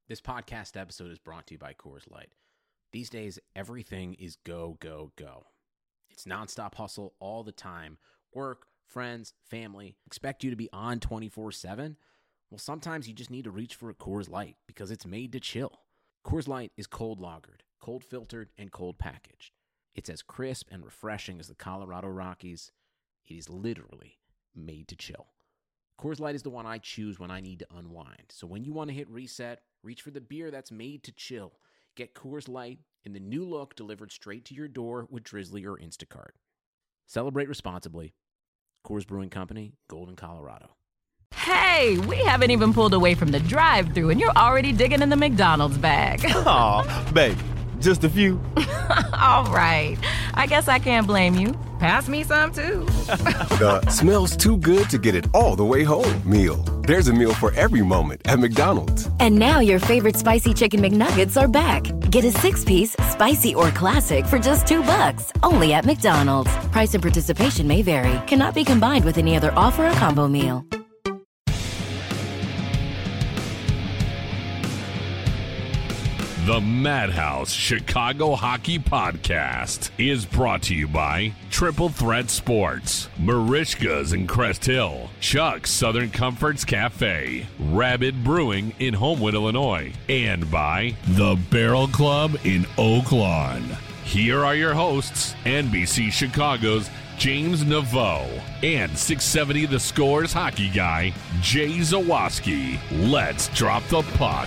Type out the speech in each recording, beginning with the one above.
This podcast episode is brought to you by Coors Light. These days, everything is go, go, go. It's nonstop hustle all the time. Work, friends, family, expect you to be on 24/7. Well, sometimes you just need to reach for a Coors Light because it's made to chill. Coors Light is cold lagered, cold filtered, and cold packaged. It's as crisp and refreshing as the Colorado Rockies. It is literally made to chill. Coors Light is the one I choose when I need to unwind. So when you want to hit reset, reach for the beer that's made to chill. Get Coors Light in the new look delivered straight to your door with Drizzly or Instacart. Celebrate responsibly. Coors Brewing Company, Golden, Colorado. Hey, we haven't even pulled away from the drive-thru and you're already digging in the McDonald's bag. Aw, baby, just a few. All right, I guess I can't blame you. Pass me some, too. The smells too good to get it all the way home meal. There's a meal for every moment at McDonald's. And now your favorite spicy chicken McNuggets are back. Get a 6-piece, spicy or classic for just $2. Only at McDonald's. Price and participation may vary. Cannot be combined with any other offer or combo meal. The Madhouse Chicago Hockey Podcast is brought to you by Triple Threat Sports, Marishka's in Crest Hill, Chuck's Southern Comforts Cafe, Rabid Brewing in Homewood, Illinois, and by The Barrel Club in Oak Lawn. Here are your hosts, NBC Chicago's James Naveau and 670 The Scores hockey guy, Jay Zawaski. Let's drop the puck.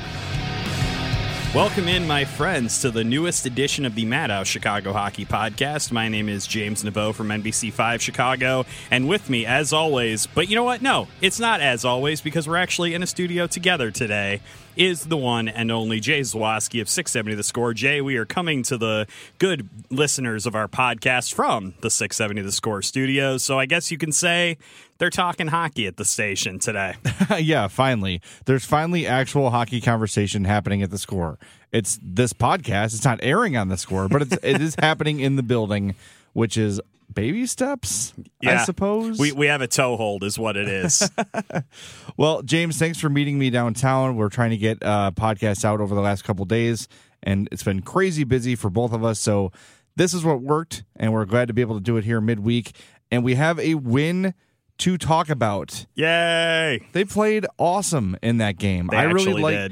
Welcome in, my friends, to the newest edition of the Madhouse Chicago Hockey Podcast. My name is James Naveau from NBC5 Chicago, and with me, as always, but you know what? No, it's not as always, because we're actually in a studio together today, is the one and only Jay Zawaski of 670 The Score. Jay, we are coming to the good listeners of our podcast from the 670 The Score studios, so I guess you can say they're talking hockey at the station today. Yeah, finally. There's finally actual hockey conversation happening at the Score. It's this podcast. It's not airing on the Score, but it is happening in the building, which is baby steps, yeah, I suppose. We have a toehold is what it is. Well, James, thanks for meeting me downtown. We're trying to get podcasts out over the last couple days, and it's been crazy busy for both of us, so this is what worked, and we're glad to be able to do it here midweek. And we have a win to talk about. Yay! They played awesome in that game. They actually did.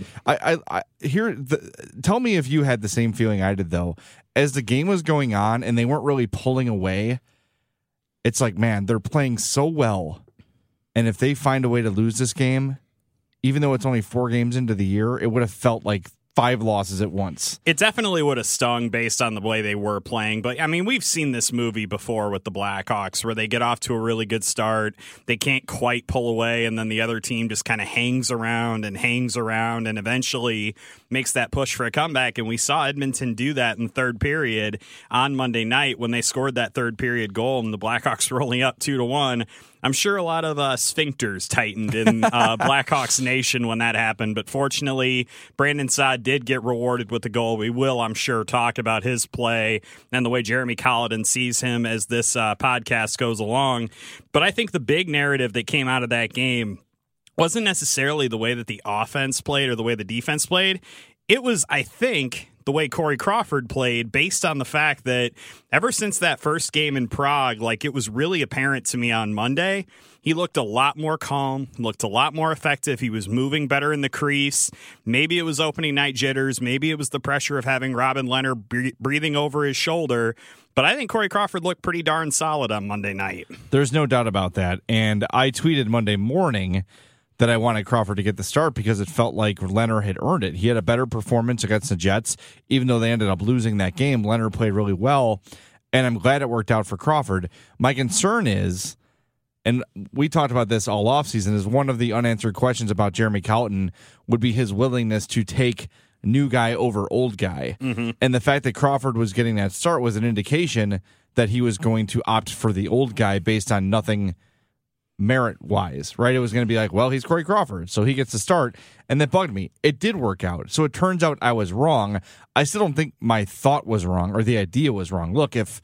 Tell me if you had the same feeling I did, though. As the game was going on and they weren't really pulling away, it's like, man, they're playing so well. And if they find a way to lose this game, even though it's only 4 games into the year, it would have felt like 5 losses at once. It definitely would have stung based on the way they were playing. But, I mean, we've seen this movie before with the Blackhawks where they get off to a really good start. They can't quite pull away, and then the other team just kind of hangs around and eventually makes that push for a comeback. And we saw Edmonton do that in the third period on Monday night when they scored that third period goal, and the Blackhawks were only up 2-1. I'm sure a lot of sphincters tightened in Blackhawks Nation when that happened, but fortunately, Brandon Saad did get rewarded with the goal. We will, I'm sure, talk about his play and the way Jeremy Colliton sees him as this podcast goes along. But I think the big narrative that came out of that game wasn't necessarily the way that the offense played or the way the defense played. It was, I think, the way Corey Crawford played, based on the fact that ever since that first game in Prague, like, it was really apparent to me on Monday, he looked a lot more calm, looked a lot more effective. He was moving better in the crease. Maybe it was opening night jitters. Maybe it was the pressure of having Robin Leonard breathing over his shoulder. But I think Corey Crawford looked pretty darn solid on Monday night. There's no doubt about that. And I tweeted Monday morning that I wanted Crawford to get the start because it felt like Leonard had earned it. He had a better performance against the Jets. Even though they ended up losing that game, Leonard played really well, and I'm glad it worked out for Crawford. My concern is, and we talked about this all offseason, is one of the unanswered questions about Jeremy Colliton would be his willingness to take new guy over old guy. Mm-hmm. And the fact that Crawford was getting that start was an indication that he was going to opt for the old guy based on nothing merit-wise, right? It was going to be like, well, he's Corey Crawford, so he gets to start, and that bugged me. It did work out, so it turns out I was wrong. I still don't think my thought was wrong, or the idea was wrong. Look, if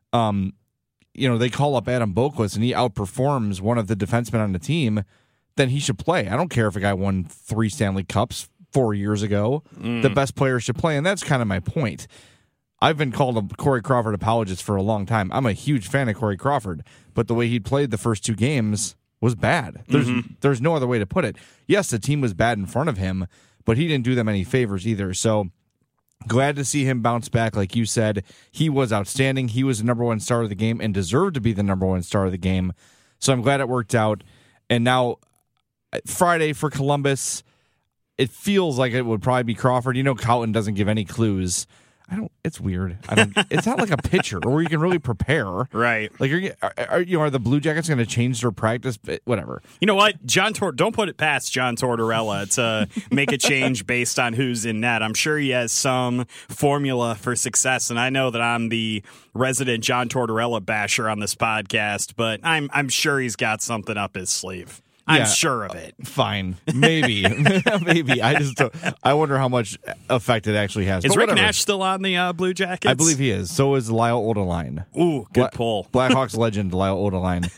they call up Adam Boqvist and he outperforms one of the defensemen on the team, then he should play. I don't care if a guy won 3 Stanley Cups, 4 years ago. The best players should play, and that's kind of my point. I've been called a Corey Crawford apologist for a long time. I'm a huge fan of Corey Crawford, but the way he played the first 2 games was bad. There's no other way to put it. Yes, the team was bad in front of him, but he didn't do them any favors either. So glad to see him bounce back. Like you said, he was outstanding. He was the number 1 star of the game and deserved to be the number 1 star of the game. So I'm glad it worked out. And now Friday for Columbus, it feels like it would probably be Crawford. You know, Cowton doesn't give any clues. It's weird. It's not like a pitcher where you can really prepare. Right. Like, are the Blue Jackets going to change their practice? Whatever. You know what? Don't put it past John Tortorella to make a change based on who's in net. I'm sure he has some formula for success, and I know that I'm the resident John Tortorella basher on this podcast, but I'm sure he's got something up his sleeve. I'm sure of it. Fine. Maybe. Maybe. I wonder how much effect it actually has. Is Rick Nash still on the Blue Jackets? I believe he is. So is Lyle Odeline. Ooh, good pull. Blackhawks legend Lyle Odeline.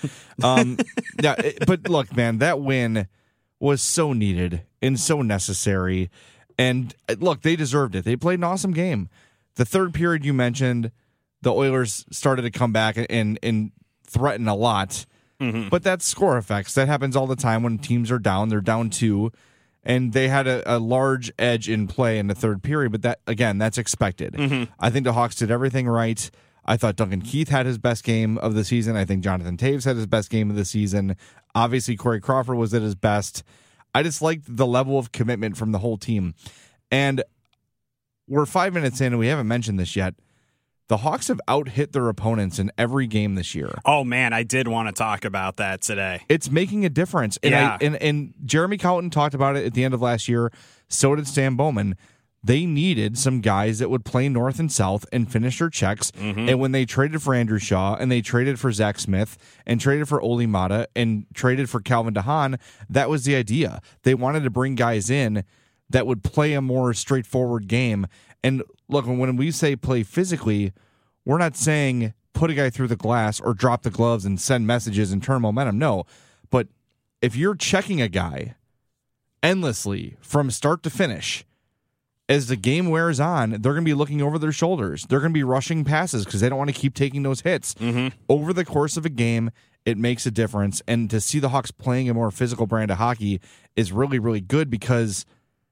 But look, man, that win was so needed and so necessary. And look, they deserved it. They played an awesome game. The third period you mentioned, the Oilers started to come back and threaten a lot. But that's score effects. That happens all the time when teams are down. They're down 2, and they had a large edge in play in the third period. But that's expected. I think the Hawks did everything right. I thought Duncan Keith had his best game of the season. I think Jonathan Toews had his best game of the season. Obviously, Corey Crawford was at his best. I just liked the level of commitment from the whole team. And we're 5 minutes in, and we haven't mentioned this yet. The Hawks have out-hit their opponents in every game this year. Oh, man, I did want to talk about that today. It's making a difference. And and Jeremy Cowton talked about it at the end of last year. So did Stan Bowman. They needed some guys that would play north and south and finish their checks. And when they traded for Andrew Shaw and they traded for Zach Smith and traded for Oli Mata and traded for Calvin DeHaan, that was the idea. They wanted to bring guys in that would play a more straightforward game. And look, when we say play physically, we're not saying put a guy through the glass or drop the gloves and send messages and turn momentum. No. But if you're checking a guy endlessly from start to finish, as the game wears on, they're going to be looking over their shoulders. They're going to be rushing passes because they don't want to keep taking those hits. Over the course of a game, it makes a difference. And to see the Hawks playing a more physical brand of hockey is really, really good because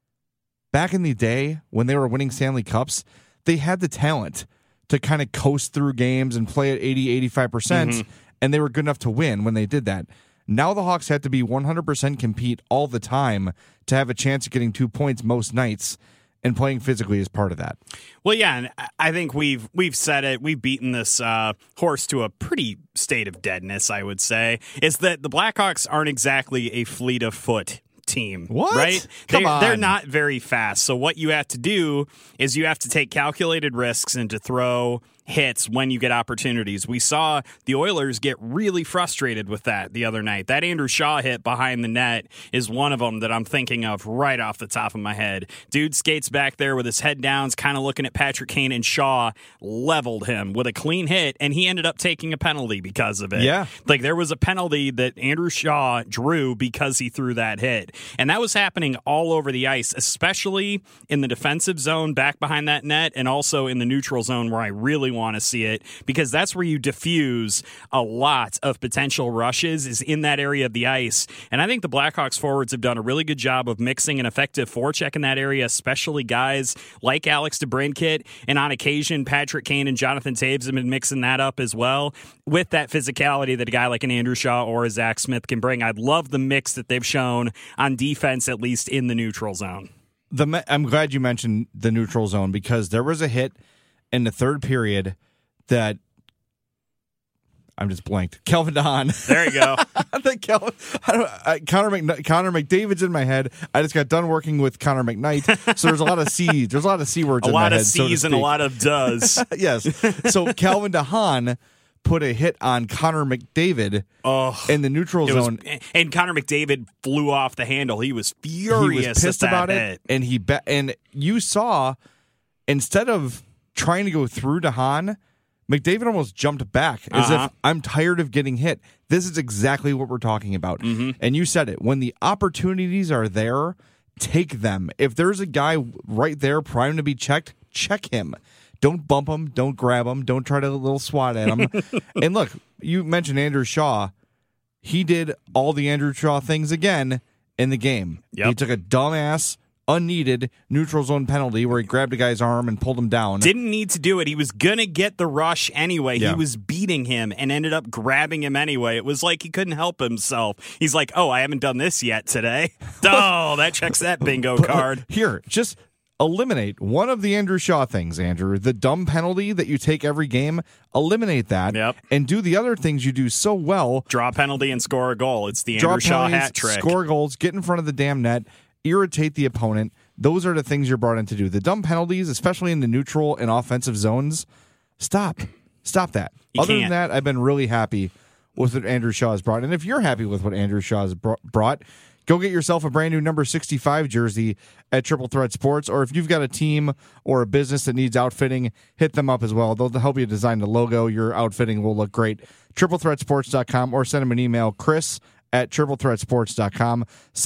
back in the day when they were winning Stanley Cups, they had the talent to kind of coast through games and play at 80-85%, and they were good enough to win when they did that. Now the Hawks have to be 100% compete all the time to have a chance of getting 2 points most nights, and playing physically is part of that. Well, yeah, and I think we've said it. We've beaten this horse to a pretty state of deadness, I would say, is that the Blackhawks aren't exactly a fleet of foot team. What? Right? Come on. They're not very fast. So what you have to do is you have to take calculated risks and to throw hits when you get opportunities. We saw the Oilers get really frustrated with that the other night. That Andrew Shaw hit behind the net is one of them that I'm thinking of right off the top of my head. Dude skates back there with his head down, kind of looking at Patrick Kane, and Shaw leveled him with a clean hit, and he ended up taking a penalty because of it. Yeah. Like, there was a penalty that Andrew Shaw drew because he threw that hit. And that was happening all over the ice, especially in the defensive zone back behind that net, and also in the neutral zone where I really want to see it, because that's where you diffuse a lot of potential rushes, is in that area of the ice. And I think the Blackhawks forwards have done a really good job of mixing an effective forecheck in that area, especially guys like Alex DeBrincat, and on occasion Patrick Kane and Jonathan Toews have been mixing that up as well with that physicality that a guy like an Andrew Shaw or a Zach Smith can bring. I love the mix that they've shown on defense, at least in the neutral zone. I'm glad you mentioned the neutral zone, because there was a hit in the third period that I'm just blanked. Calvin DeHaan. There you go. Connor McDavid's in my head. I just got done working with Connor McKnight, so there's a lot of C. There's a lot of C words. A in lot my of head, C's and a lot of does. Yes. So Calvin DeHaan put a hit on Connor McDavid in the neutral zone, and Connor McDavid flew off the handle. He was furious. He was pissed about it, and and you saw, instead of trying to go through DeHaan, McDavid almost jumped back as if, I'm tired of getting hit. This is exactly what we're talking about. And you said it. When the opportunities are there, take them. If there's a guy right there primed to be checked, check him. Don't bump him. Don't grab him. Don't try to little swat at him. And look, you mentioned Andrew Shaw. He did all the Andrew Shaw things again in the game. Yep. He took a dumbass, unneeded neutral zone penalty where he grabbed a guy's arm and pulled him down. Didn't need to do it. He was going to get the rush anyway. Yeah. He was beating him and ended up grabbing him anyway. It was like he couldn't help himself. He's like, oh, I haven't done this yet today. Oh, that checks that bingo card. Here, just eliminate one of the Andrew Shaw things, Andrew. The dumb penalty that you take every game, eliminate that. Yep. And do the other things you do so well. Draw a penalty and score a goal. It's the Draw Andrew Shaw penalties, hat trick. Score goals, get in front of the damn net, irritate the opponent. Those are the things you're brought in to do. The dumb penalties, especially in the neutral and offensive zones, stop. Stop that. You Other can't. than that, I've been really happy with what Andrew Shaw has brought. And if you're happy with what Andrew Shaw has brought, go get yourself a brand new number 65 jersey at Triple Threat Sports. Or if you've got a team or a business that needs outfitting, hit them up as well. They'll help you design the logo. Your outfitting will look great. TripleThreatSports.com or send them an email, Chris@TripleThreatSports.com,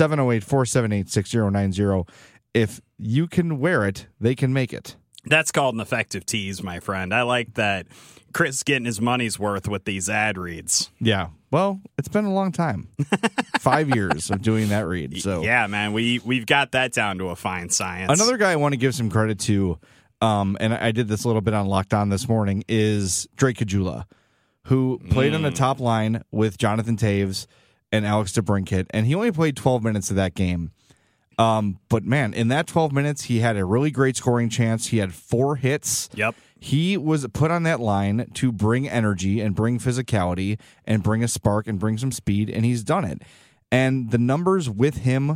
708-478-6090. If you can wear it, they can make it. That's called an effective tease, my friend. I like that Chris getting his money's worth with these ad reads. Yeah. Well, it's been a long time. 5 years of doing that read. So yeah, man, we've got that down to a fine science. Another guy I want to give some credit to, and I did this a little bit on Locked On this morning, is Drake Caggiula, who played on the top line with Jonathan Toews and Alex DeBrincat, and he only played 12 minutes of that game. But man, in that 12 minutes, he had a really great scoring chance. He had 4 hits. Yep. He was put on that line to bring energy and bring physicality and bring a spark and bring some speed, and he's done it. And the numbers with him,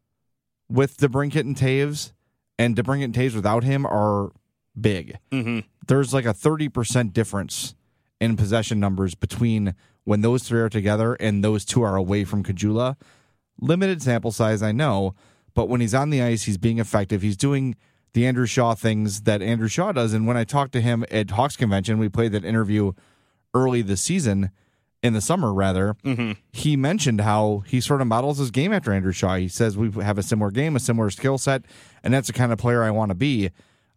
with DeBrincat and Toews, and DeBrincat and Toews without him are big. Mm-hmm. There's like a 30% difference in possession numbers between when those three are together and those two are away from Caggiula. Limited sample size, I know, but when he's on the ice, he's being effective. He's doing the Andrew Shaw things that Andrew Shaw does. And when I talked to him at Hawks Convention, we played that interview early this season, in the summer rather, he mentioned how he sort of models his game after Andrew Shaw. He says we have a similar game, a similar skill set, and that's the kind of player I want to be.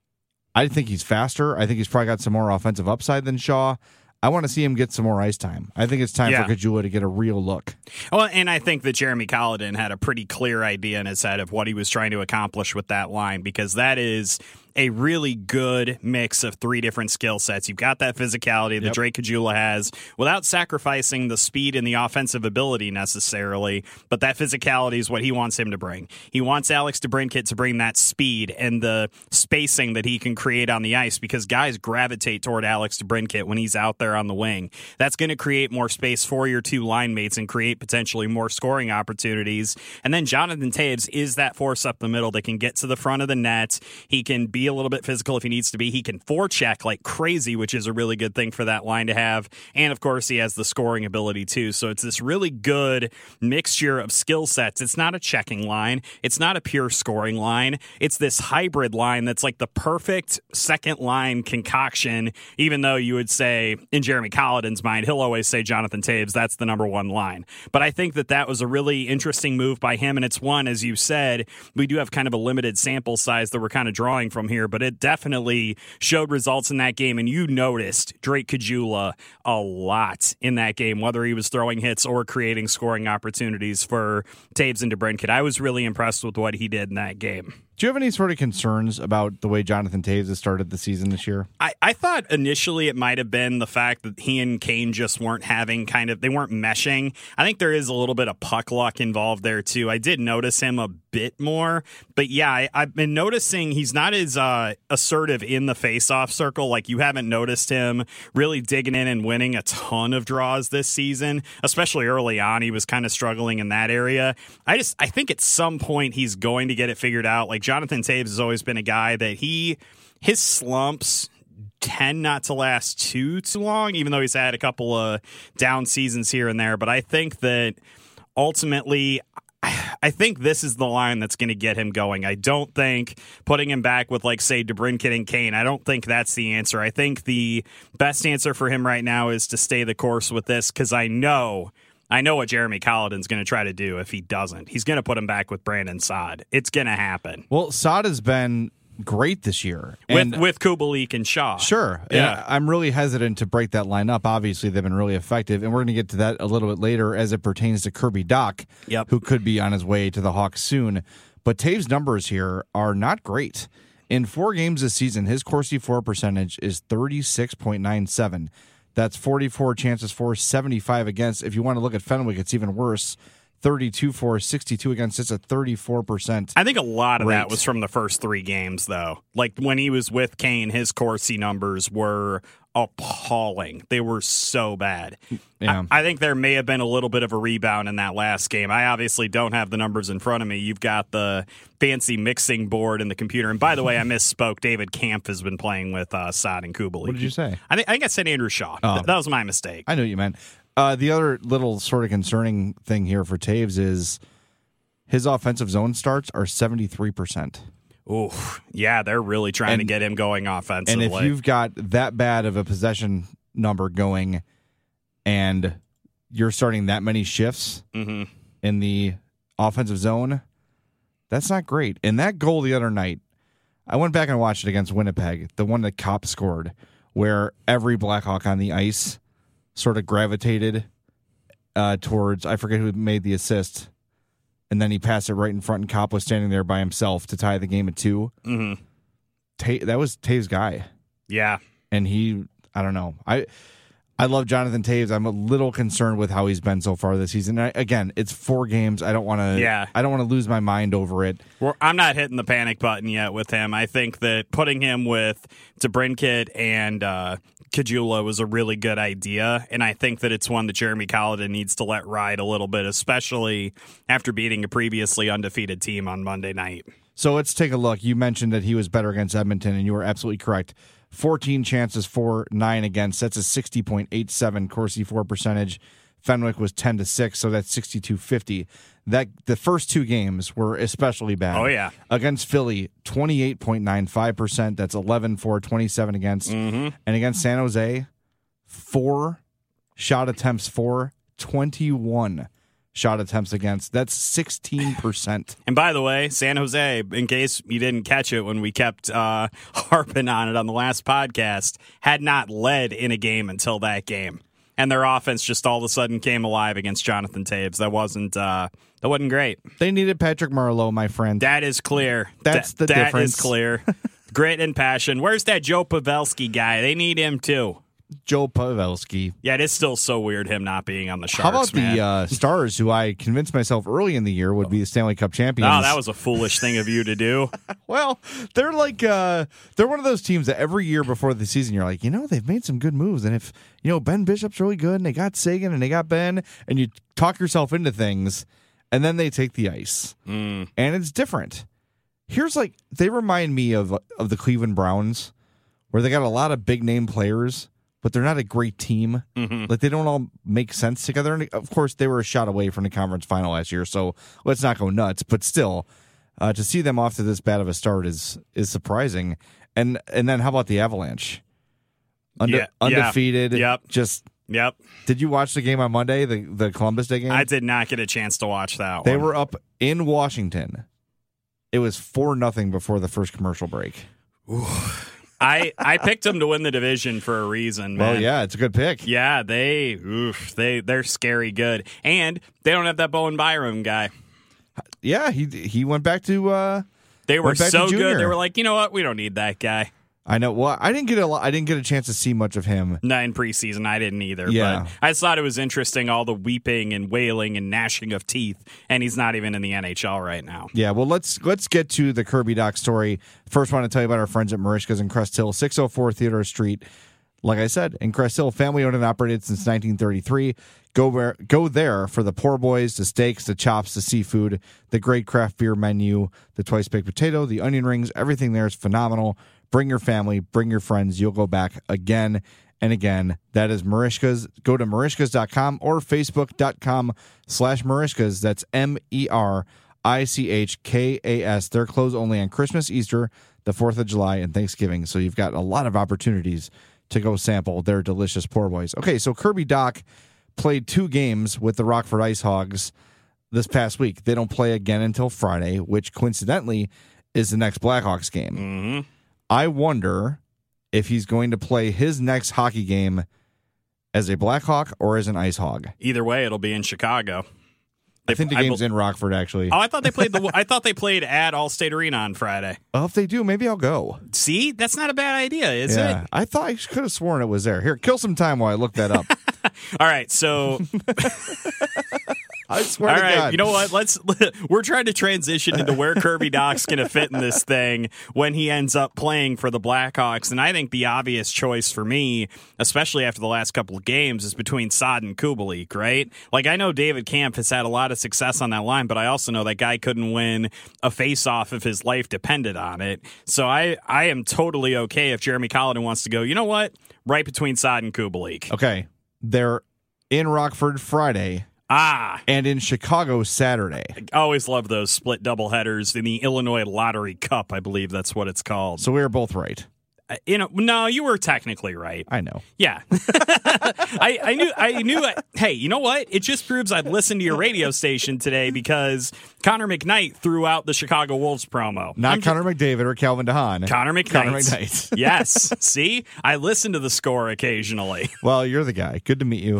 I think he's faster. I think he's probably got some more offensive upside than Shaw. I want to see him get some more ice time. I think it's time for Caggiula to get a real look. Well, and I think that Jeremy Colliton had a pretty clear idea in his head of what he was trying to accomplish with that line, because that is a really good mix of 3 different skill sets. You've got that physicality that Drake Caggiula has without sacrificing the speed and the offensive ability necessarily, but that physicality is what he wants him to bring. He wants Alex DeBrincat to bring that speed and the spacing that he can create on the ice, because guys gravitate toward Alex DeBrincat when he's out there on the wing. That's going to create more space for your 2 line mates and create potentially more scoring opportunities. And then Jonathan Toews is that force up the middle that can get to the front of the net. He can be a little bit physical if he needs to be. He can forecheck like crazy, which is a really good thing for that line to have. And of course, he has the scoring ability too. So it's this really good mixture of skill sets. It's not a checking line. It's not a pure scoring line. It's this hybrid line that's like the perfect second line concoction, even though you would say, in Jeremy Colliton's mind, he'll always say Jonathan Toews, that's the number 1 line. But I think that that was a really interesting move by him. And it's one, as you said, we do have kind of a limited sample size that we're kind of drawing from here, but it definitely showed results in that game. And you noticed Drake Caggiula a lot in that game, whether he was throwing hits or creating scoring opportunities for Toews and DeBrincat. I was really impressed with what he did in that game. Do you have any sort of concerns about the way Jonathan Toews has started the season this year? I thought initially it might have been the fact that he and Kane just weren't having they weren't meshing. I think there is a little bit of puck luck involved there too. I did notice him a bit more, but yeah, I've been noticing he's not as assertive in the face-off circle. Like, you haven't noticed him really digging in and winning a ton of draws this season, especially early on. He was kind of struggling in that area. I think at some point he's going to get it figured out. Like, Jonathan Toews has always been a guy that his slumps tend not to last too long, even though he's had a couple of down seasons here and there. But I think that ultimately, I think this is the line that's going to get him going. I don't think putting him back with, like, say, DeBrincat and Kane, I don't think that's the answer. I think the best answer for him right now is to stay the course with this, because I know I know what Jeremy Colliton's going to try to do if he doesn't. He's going to put him back with Brandon Saad. It's going to happen. Well, Saad has been great this year. With Kubalik and Shaw. Sure. Yeah. And I'm really hesitant to break that line up. Obviously, they've been really effective, and we're going to get to that a little bit later as it pertains to Kirby Dach, who could be on his way to the Hawks soon. But Taves' numbers here are not great. In 4 games this season, his Corsi for percentage is 36.97. That's 44 chances for, 75 against. If you want to look at Fenwick, it's even worse. 32 for, 62 against. It's a 34%. I think a lot of rate. that was from the first 3 games, though. Like when he was with Kane, his Corsi numbers were appalling. They were so bad. Yeah. I think there may have been a little bit of a rebound in that last game. I obviously don't have the numbers in front of me. You've got the fancy mixing board in the computer. And by the way, I misspoke. David Camp has been playing with Saad and Kubalik. What did you say? I think I said Andrew Shaw. Oh. That was my mistake. I know what you meant. The other little sort of concerning thing here for Taves is his offensive zone starts are 73%. Ooh, yeah, they're really trying to get him going offensively. And if you've got that bad of a possession number going and you're starting that many shifts in the offensive zone, that's not great. And that goal the other night, I went back and watched it against Winnipeg, the one that Kopp scored, where every Blackhawk on the ice sort of gravitated towards, I forget who made the assist, and then he passed it right in front, and Kopp was standing there by himself to tie the game at 2. Mm-hmm. That was Taves' guy. Yeah. And I don't know. I love Jonathan Taves. I'm a little concerned with how he's been so far this season. Again, it's 4 games. I don't want to. Yeah. I don't want to lose my mind over it. I'm not hitting the panic button yet with him. I think that putting him with DeBrincat and Kajula was a really good idea, and I think that it's one that Jeremy Colliton needs to let ride a little bit, especially after beating a previously undefeated team on Monday night. So let's take a look. You mentioned that he was better against Edmonton, and you were absolutely correct. 14 chances for, 9 against. That's a 60.87 Corsi for percentage. Fenwick was 10-6, so that's 62.50. The first 2 games were especially bad. Oh, yeah. Against Philly, 28.95%. That's 11 for, 27 against. Mm-hmm. And against San Jose, 4 shot attempts for, 21 shot attempts against. That's 16%. And by the way, San Jose, in case you didn't catch it when we kept harping on it on the last podcast, had not led in a game until that game. And their offense just all of a sudden came alive against Jonathan Taves. That wasn't great. They needed Patrick Marleau, my friend. That is clear. That's the difference. That is clear. Grit and passion. Where's that Joe Pavelski guy? They need him too. Joe Pavelski. Yeah, it is still so weird him not being on the Sharks. How about man? the Stars, who I convinced myself early in the year would be the Stanley Cup champions? Oh, that was a foolish thing of you to do. Well, they're like they're one of those teams that every year before the season you're like, they've made some good moves, and if Ben Bishop's really good, and they got Sagan and they got Ben, and you talk yourself into things, and then they take the ice, and it's different. Here's they remind me of the Cleveland Browns, where they got a lot of big name players, but they're not a great team. Mm-hmm. They don't all make sense together. And of course, they were a shot away from the conference final last year, so let's not go nuts. But still, to see them off to this bad of a start is surprising. And then how about the Avalanche? Undefeated. Yep. Yep. Did you watch the game on Monday, the Columbus Day game? I did not get a chance to watch that one. They were up in Washington. It was 4-0 before the first commercial break. Ooh. I picked them to win the division for a reason, man. Well, yeah, it's a good pick. Yeah, they're scary good. And they don't have that Bowen Byram guy. Yeah, he went back to they were so junior. good. They were like, you know what? We don't need that guy. I know. Well, I didn't get a chance to see much of him. Not in preseason. I didn't either. Yeah. But I just thought it was interesting, all the weeping and wailing and gnashing of teeth, and he's not even in the NHL right now. Yeah, well, let's get to the Kirby Dach story. First, want to tell you about our friends at Marishka's in Crest Hill, 604 Theodore Street. Like I said, in Crest Hill, family owned and operated since 1933. Go there for the poor boys, the steaks, the chops, the seafood, the great craft beer menu, the twice baked potato, the onion rings. Everything there is phenomenal. Bring your family, bring your friends. You'll go back again and again. That is Marishka's. Go to marishkas.com or facebook.com/Marishkas. That's MERICHKAS. They're closed only on Christmas, Easter, the 4th of July, and Thanksgiving. So you've got a lot of opportunities to go sample their delicious poor boys. Okay, so Kirby Dach played 2 games with the Rockford Ice Hogs this past week. They don't play again until Friday, which coincidentally is the next Blackhawks game. Mm-hmm. I wonder if he's going to play his next hockey game as a Blackhawk or as an Ice Hog. Either way, it'll be in Chicago. I think the game's in Rockford, actually. Oh, I thought they played at Allstate Arena on Friday. Well, if they do, maybe I'll go. See, that's not a bad idea, is it? I thought I could have sworn it was there. Here, kill some time while I look that up. All right, so I swear all to right, God. you know what? We're trying to transition into where Kirby Dach's going to fit in this thing when he ends up playing for the Blackhawks, and I think the obvious choice for me, especially after the last couple of games, is between Saad and Kubalik, right? Like, I know David Kampf has had a lot of success on that line, but I also know that guy couldn't win a face-off if his life depended on it. So I am totally okay if Jeremy Colliton wants to go, you know what? Right between Saad and Kubalik. Okay, they're in Rockford Friday. And in Chicago Saturday. I always love those split doubleheaders in the Illinois Lottery Cup, I believe that's what it's called. So we were both right. No, you were technically right. I know. Yeah. I knew. Hey, you know what? It just proves I'd listened to your radio station today because Connor McKnight threw out the Chicago Wolves promo. Not Connor McDavid or Calvin DeHaan. Connor McKnight. Connor McKnight. Yes. See? I listen to the score occasionally. Well, you're the guy. Good to meet you.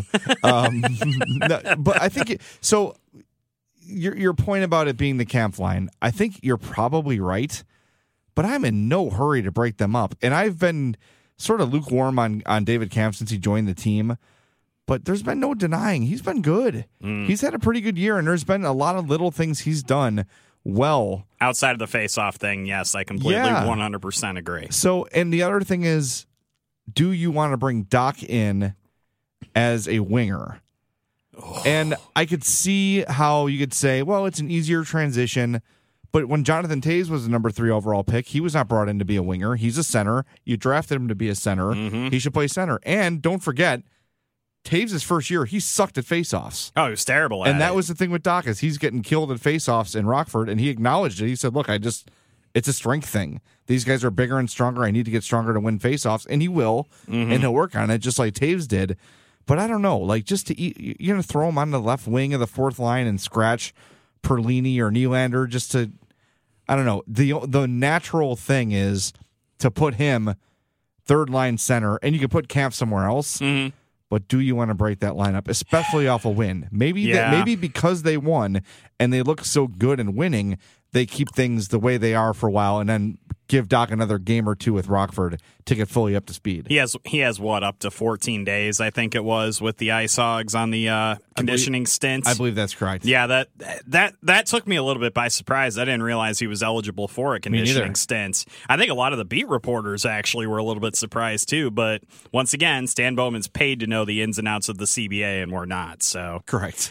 No, but I think so. Your point about it being the Kampf line, I think you're probably right. But I'm in no hurry to break them up. And I've been sort of lukewarm on David Kampf since he joined the team. But there's been no denying he's been good. He's had a pretty good year, and there's been a lot of little things he's done well. Outside of the face-off thing, yes, I completely 100% agree. So, and the other thing is, do you want to bring Dach in as a winger? And I could see how you could say, well, it's an easier transition. But when Jonathan Toews was the number 3 overall pick, he was not brought in to be a winger. He's a center. You drafted him to be a center. Mm-hmm. He should play center. And don't forget, Toews' first year, he sucked at faceoffs. Oh, he was terrible at it. And that was the thing with Dach, is he's getting killed at faceoffs in Rockford, and he acknowledged it. He said, look, it's a strength thing. These guys are bigger and stronger. I need to get stronger to win faceoffs. And he will, and he'll work on it just like Toews did. But I don't know, like just to eat, you're going to throw him on the left wing of the fourth line and scratch Perlini or Nylander just to, I don't know. The natural thing is to put him third line center, and you can put Kampf somewhere else. Mm-hmm. But do you want to break that lineup, especially off a win? Maybe because they won and they look so good in winning, they keep things the way they are for a while, and then give Dach another game or two with Rockford to get fully up to speed. He has what, up to 14 days, I think it was, with the Ice Hogs on the conditioning stints. I believe that's correct. Yeah, that took me a little bit by surprise. I didn't realize he was eligible for a conditioning stint. I think a lot of the beat reporters actually were a little bit surprised too. But once again, Stan Bowman's paid to know the ins and outs of the CBA, and we're not. So correct.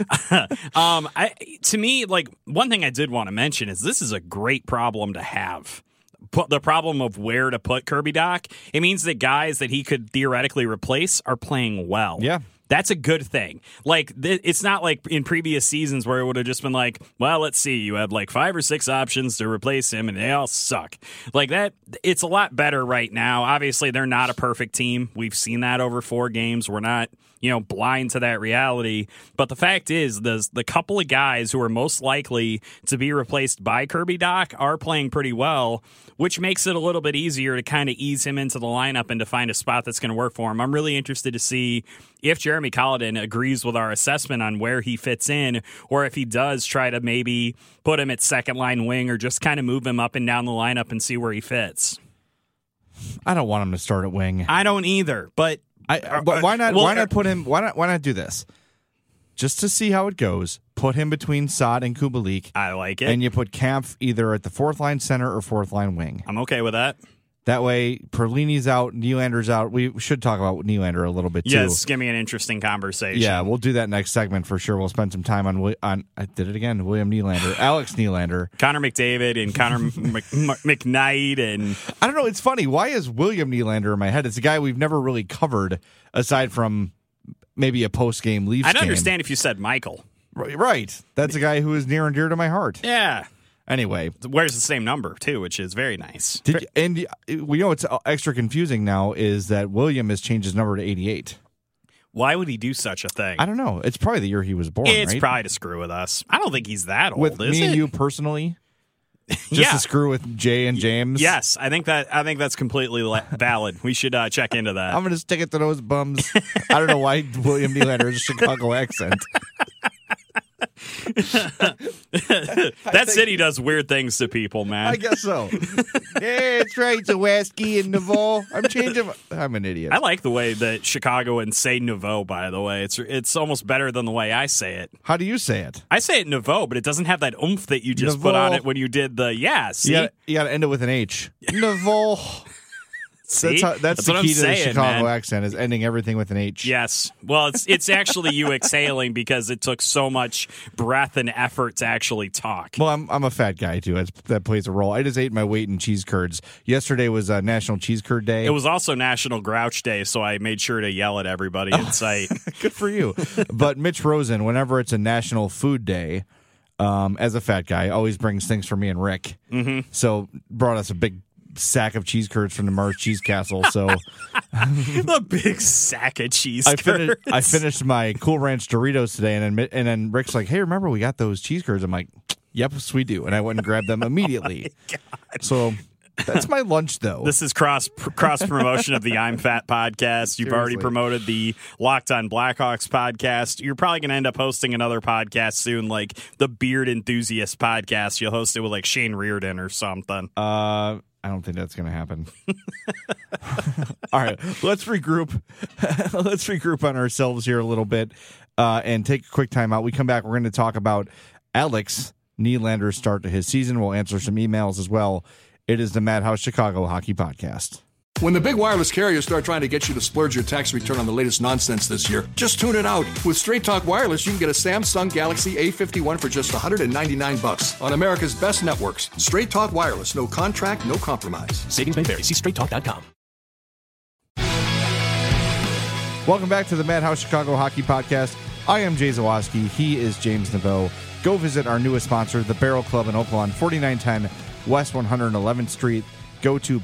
To me, like, one thing I did want to mention is this is a great problem to have. The problem of where to put Kirby Dach, it means that guys that he could theoretically replace are playing well. Yeah. That's a good thing. Like, it's not like in previous seasons where it would have just been like, well, let's see, you have like 5 or 6 options to replace him and they all suck. Like that, it's a lot better right now. Obviously, they're not a perfect team. We've seen that over 4 games. We're not, blind to that reality. But the fact is, the couple of guys who are most likely to be replaced by Kirby Dach are playing pretty well, which makes it a little bit easier to kind of ease him into the lineup and to find a spot that's going to work for him. I'm really interested to see if Jeremy Colliton agrees with our assessment on where he fits in, or if he does try to maybe put him at second line wing or just kind of move him up and down the lineup and see where he fits. I don't want him to start at wing. I don't either, but why not? Why not put him? Why not do this? Just to see how it goes. Put him between Saad and Kubalik. I like it. And you put Kampf either at the fourth line center or fourth line wing. I'm okay with that. That way, Perlini's out, Nylander's out. We should talk about Nylander a little bit, too. Yes, give me an interesting conversation. Yeah, we'll do that next segment for sure. We'll spend some time on I did it again, William Nylander, Alex Nylander. Connor McDavid and Connor McKnight. And I don't know, it's funny. Why is William Nylander in my head? It's a guy we've never really covered, aside from maybe a post-game Leafs game. I'd understand if you said Michael. Right. That's a guy who is near and dear to my heart. Yeah. Anyway, wears the same number too, which is very nice. And we know it's extra confusing now is that William has changed his number to 88. Why would he do such a thing? I don't know. It's probably the year he was born, It's right? probably to screw with us. I don't think he's that old, With is me it? and you personally? Just Yeah. to screw with Jay and James? Yes, I think that's completely valid. We should check into that. I'm going to stick it to those bums. I don't know why William Nylander has a Chicago accent. That city does weird things to people, man. I guess so. Yeah, it's right. Zawaski and Naval. I'm an idiot. I like the way that Chicagoans say nouveau, by the way. It's almost better than the way I say it. How do you say it? I say it nouveau, but it doesn't have that oomph that you just put on it when you did the see? You got to end it with an H. Naval. See? That's the what key I'm to saying, the Chicago man. accent is ending everything with an H. Yes. Well, it's actually you exhaling because it took so much breath and effort to actually talk. Well, I'm a fat guy, too. That plays a role. I just ate my weight in cheese curds. Yesterday was National Cheese Curd Day. It was also National Grouch Day, so I made sure to yell at everybody in sight. Good for you. But Mitch Rosen, whenever it's a National Food Day, as a fat guy, always brings things for me and Rick. Mm-hmm. So brought us a big sack of cheese curds from the Mars Cheese Castle. So a big sack of cheese I curds. finished my Cool Ranch Doritos today, and then Rick's like, "Hey, remember we got those cheese curds?" I'm like, "Yep, we do," and I went and grabbed them immediately. So that's my lunch, though. This is cross promotion of the I'm Fat podcast. You've already Seriously. promoted the Locked on Blackhawks podcast. You're probably going to end up hosting another podcast soon, like the Beard Enthusiast podcast. You'll host it with like Shane Reardon or something. I don't think that's going to happen. All right, let's regroup. Let's regroup on ourselves here a little bit and take a quick time out. We come back, we're going to talk about Alex Nylander's start to his season. We'll answer some emails as well. It is the Madhouse Chicago Hockey Podcast. When the big wireless carriers start trying to get you to splurge your tax return on the latest nonsense this year, just tune it out. With Straight Talk Wireless, you can get a Samsung Galaxy A51 for just $199 on America's best networks. Straight Talk Wireless, no contract, no compromise. Savings may vary. See straighttalk.com. Welcome back to the Madhouse Chicago Hockey Podcast. I am Jay Zawaski. He is James Naveau. Go visit our newest sponsor, the Barrel Club in Oakland, 4910 West 111th Street. Go to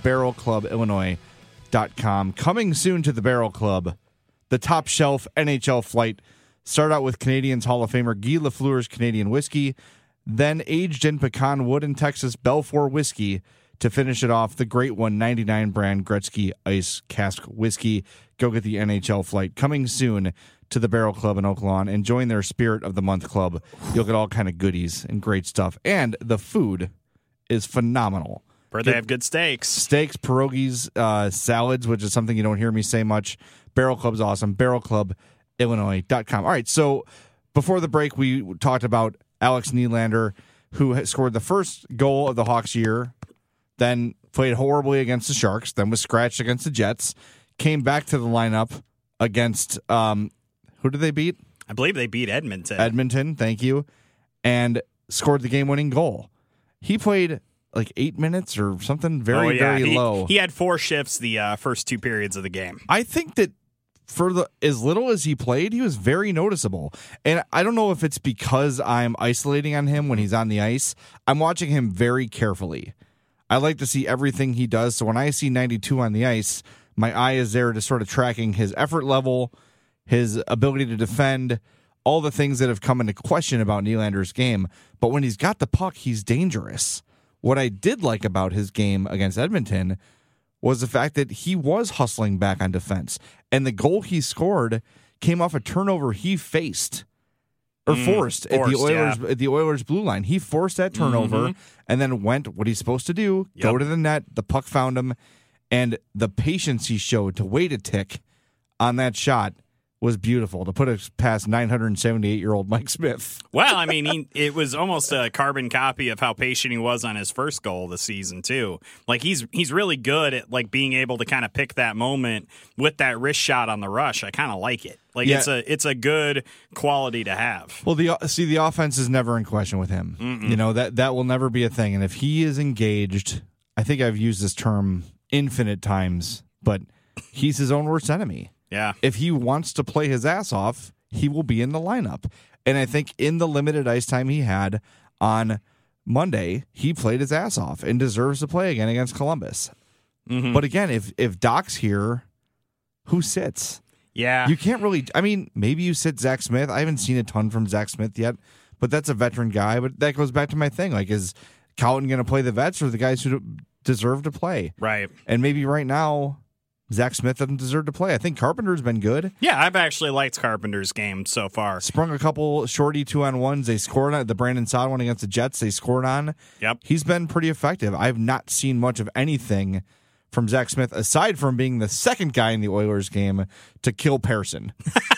barrelclubillinois.com. Coming soon to the Barrel Club, the top shelf NHL flight. Start out with Canadians Hall of Famer Guy Lafleur's Canadian whiskey, then aged in pecan wood and Texas Belfour whiskey to finish it off, the Great 199 brand Gretzky Ice Cask whiskey. Go get the NHL flight. Coming soon to the Barrel Club in Oakland and join their Spirit of the Month Club. You'll get all kind of goodies and great stuff. And the food is phenomenal. Where they have good steaks. Steaks, pierogies, salads, which is something you don't hear me say much. Barrel Club's awesome. BarrelClubIllinois.com. All right, so before the break, we talked about Alex Nylander, who has scored the first goal of the Hawks year, then played horribly against the Sharks, then was scratched against the Jets, came back to the lineup against, who did they beat? I believe they beat Edmonton. Edmonton, thank you, and scored the game-winning goal. He played like 8 minutes or something very low. He had 4 shifts the first 2 periods of the game. I think that for as little as he played, he was very noticeable. And I don't know if it's because I'm isolating on him when he's on the ice. I'm watching him very carefully. I like to see everything he does. So when I see 92 on the ice, my eye is there to sort of tracking his effort level, his ability to defend, all the things that have come into question about Nylander's game. But when he's got the puck, he's dangerous. What I did like about his game against Edmonton was the fact that he was hustling back on defense. And the goal he scored came off a turnover he faced or forced at the Oilers blue line. He forced that turnover and then went what he's supposed to do, go to the net, the puck found him, and the patience he showed to wait a tick on that shot was beautiful, to put it past 978-year-old Mike Smith. Well, I mean, it was almost a carbon copy of how patient he was on his first goal of the season, too. Like, he's really good at, like, being able to kind of pick that moment with that wrist shot on the rush. I kind of like it. Like, it's a good quality to have. Well, the offense is never in question with him. You know, that will never be a thing. And if he is engaged, I think I've used this term infinite times, but he's his own worst enemy. Yeah. If he wants to play his ass off, he will be in the lineup. And I think in the limited ice time he had on Monday, he played his ass off and deserves to play again against Columbus. But again, if Doc's here, who sits? Yeah. You can't really, I mean, maybe you sit Zach Smith. I haven't seen a ton from Zach Smith yet, but that's a veteran guy. But that goes back to my thing. Like, is Colton going to play the vets or the guys who deserve to play? Right. And maybe right now, Zach Smith doesn't deserve to play. I think Carpenter's been good. Yeah, I've actually liked Carpenter's game so far. Sprung a couple shorty 2-on-1s. They scored on the Brandon Saad one against the Jets. They scored on. Yep. He's been pretty effective. I've not seen much of anything from Zach Smith, aside from being the second guy in the Oilers game to kill Pearson.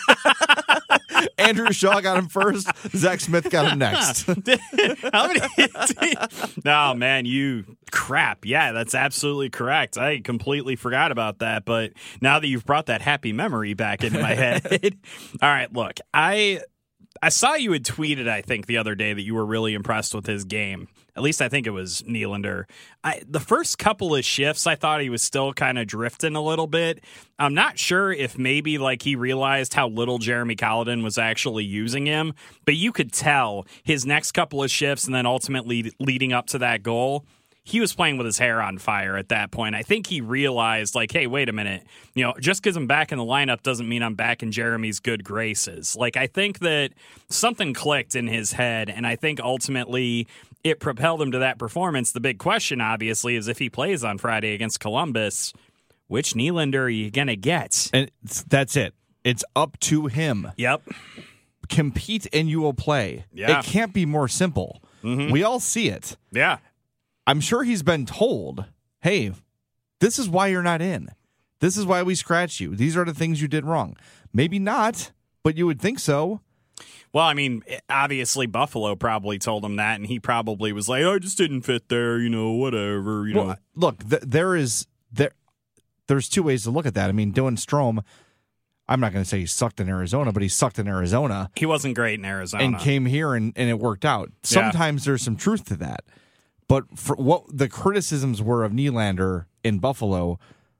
Andrew Shaw got him first. Zach Smith got him next. How many? No, man, you crap. Yeah, that's absolutely correct. I completely forgot about that. But now that you've brought that happy memory back into my head. All right, look, I saw you had tweeted, I think, the other day that you were really impressed with his game. At least I think it was Nylander. The first couple of shifts, I thought he was still kind of drifting a little bit. I'm not sure if maybe like he realized how little Jeremy Colliton was actually using him, but you could tell his next couple of shifts and then ultimately leading up to that goal, he was playing with his hair on fire at that point. I think he realized, like, hey, wait a minute. Just because I'm back in the lineup doesn't mean I'm back in Jeremy's good graces. Like, I think that something clicked in his head, and I think ultimately it propelled him to that performance. The big question, obviously, is if he plays on Friday against Columbus, which Nylander are you going to get? And that's it. It's up to him. Yep. Compete and you will play. Yeah. It can't be more simple. Mm-hmm. We all see it. Yeah. I'm sure he's been told, hey, this is why you're not in. This is why we scratched you. These are the things you did wrong. Maybe not, but you would think so. Well, I mean, obviously Buffalo probably told him that, and he probably was like, I just didn't fit there, whatever, Well, look, there's two ways to look at that. I mean, Dylan Strome, I'm not going to say he sucked in Arizona, but he sucked in Arizona. He wasn't great in Arizona. And came here, and it worked out. Sometimes there's some truth to that. But for what the criticisms were of Nylander in Buffalo,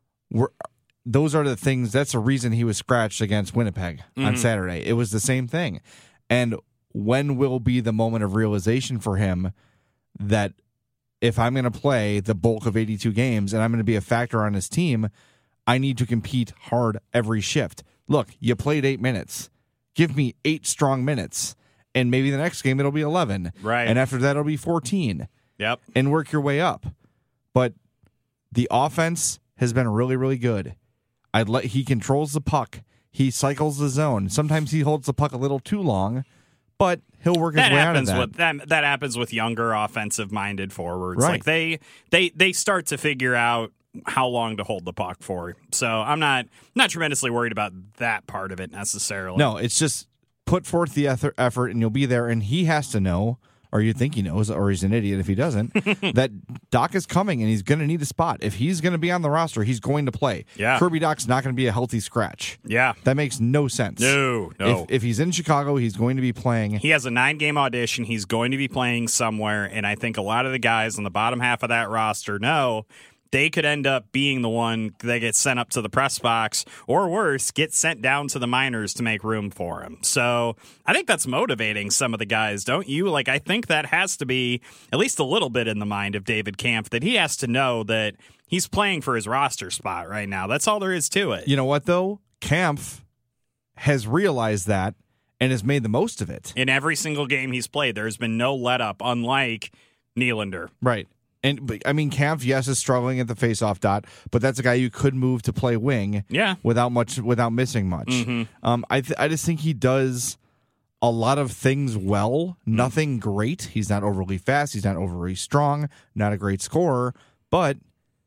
those are the things, that's the reason he was scratched against Winnipeg on Saturday. It was the same thing. And when will be the moment of realization for him that if I'm going to play the bulk of 82 games and I'm going to be a factor on his team, I need to compete hard every shift. Look, you played 8 minutes. Give me 8 strong minutes. And maybe the next game it'll be 11. Right. And after that it'll be 14. Yep. And work your way up. But the offense has been really, really good. He controls the puck. He cycles the zone. Sometimes he holds the puck a little too long, but he'll work his way out of that. That happens with younger offensive-minded forwards. Right. Like they start to figure out how long to hold the puck for. So I'm not tremendously worried about that part of it necessarily. No, it's just put forth the effort and you'll be there. And he has to know, or you think he knows, or he's an idiot if he doesn't, that Doc is coming and he's going to need a spot. If he's going to be on the roster, he's going to play. Yeah. Kirby Doc's not going to be a healthy scratch. Yeah. That makes no sense. No. If he's in Chicago, he's going to be playing. He has a 9-game audition. He's going to be playing somewhere, and I think a lot of the guys on the bottom half of that roster know they could end up being the one that gets sent up to the press box, or worse, get sent down to the minors to make room for him. So I think that's motivating some of the guys, don't you? Like, I think that has to be at least a little bit in the mind of David Kampf, that he has to know that he's playing for his roster spot right now. That's all there is to it. You know what, though? Kampf has realized that and has made the most of it. In every single game he's played, there's been no let-up, unlike Nylander. Right. And I mean, Kampf, yes, is struggling at the faceoff dot, but that's a guy you could move to play wing, without missing much. Mm-hmm. I just think he does a lot of things well. Nothing great. He's not overly fast. He's not overly strong. Not a great scorer, but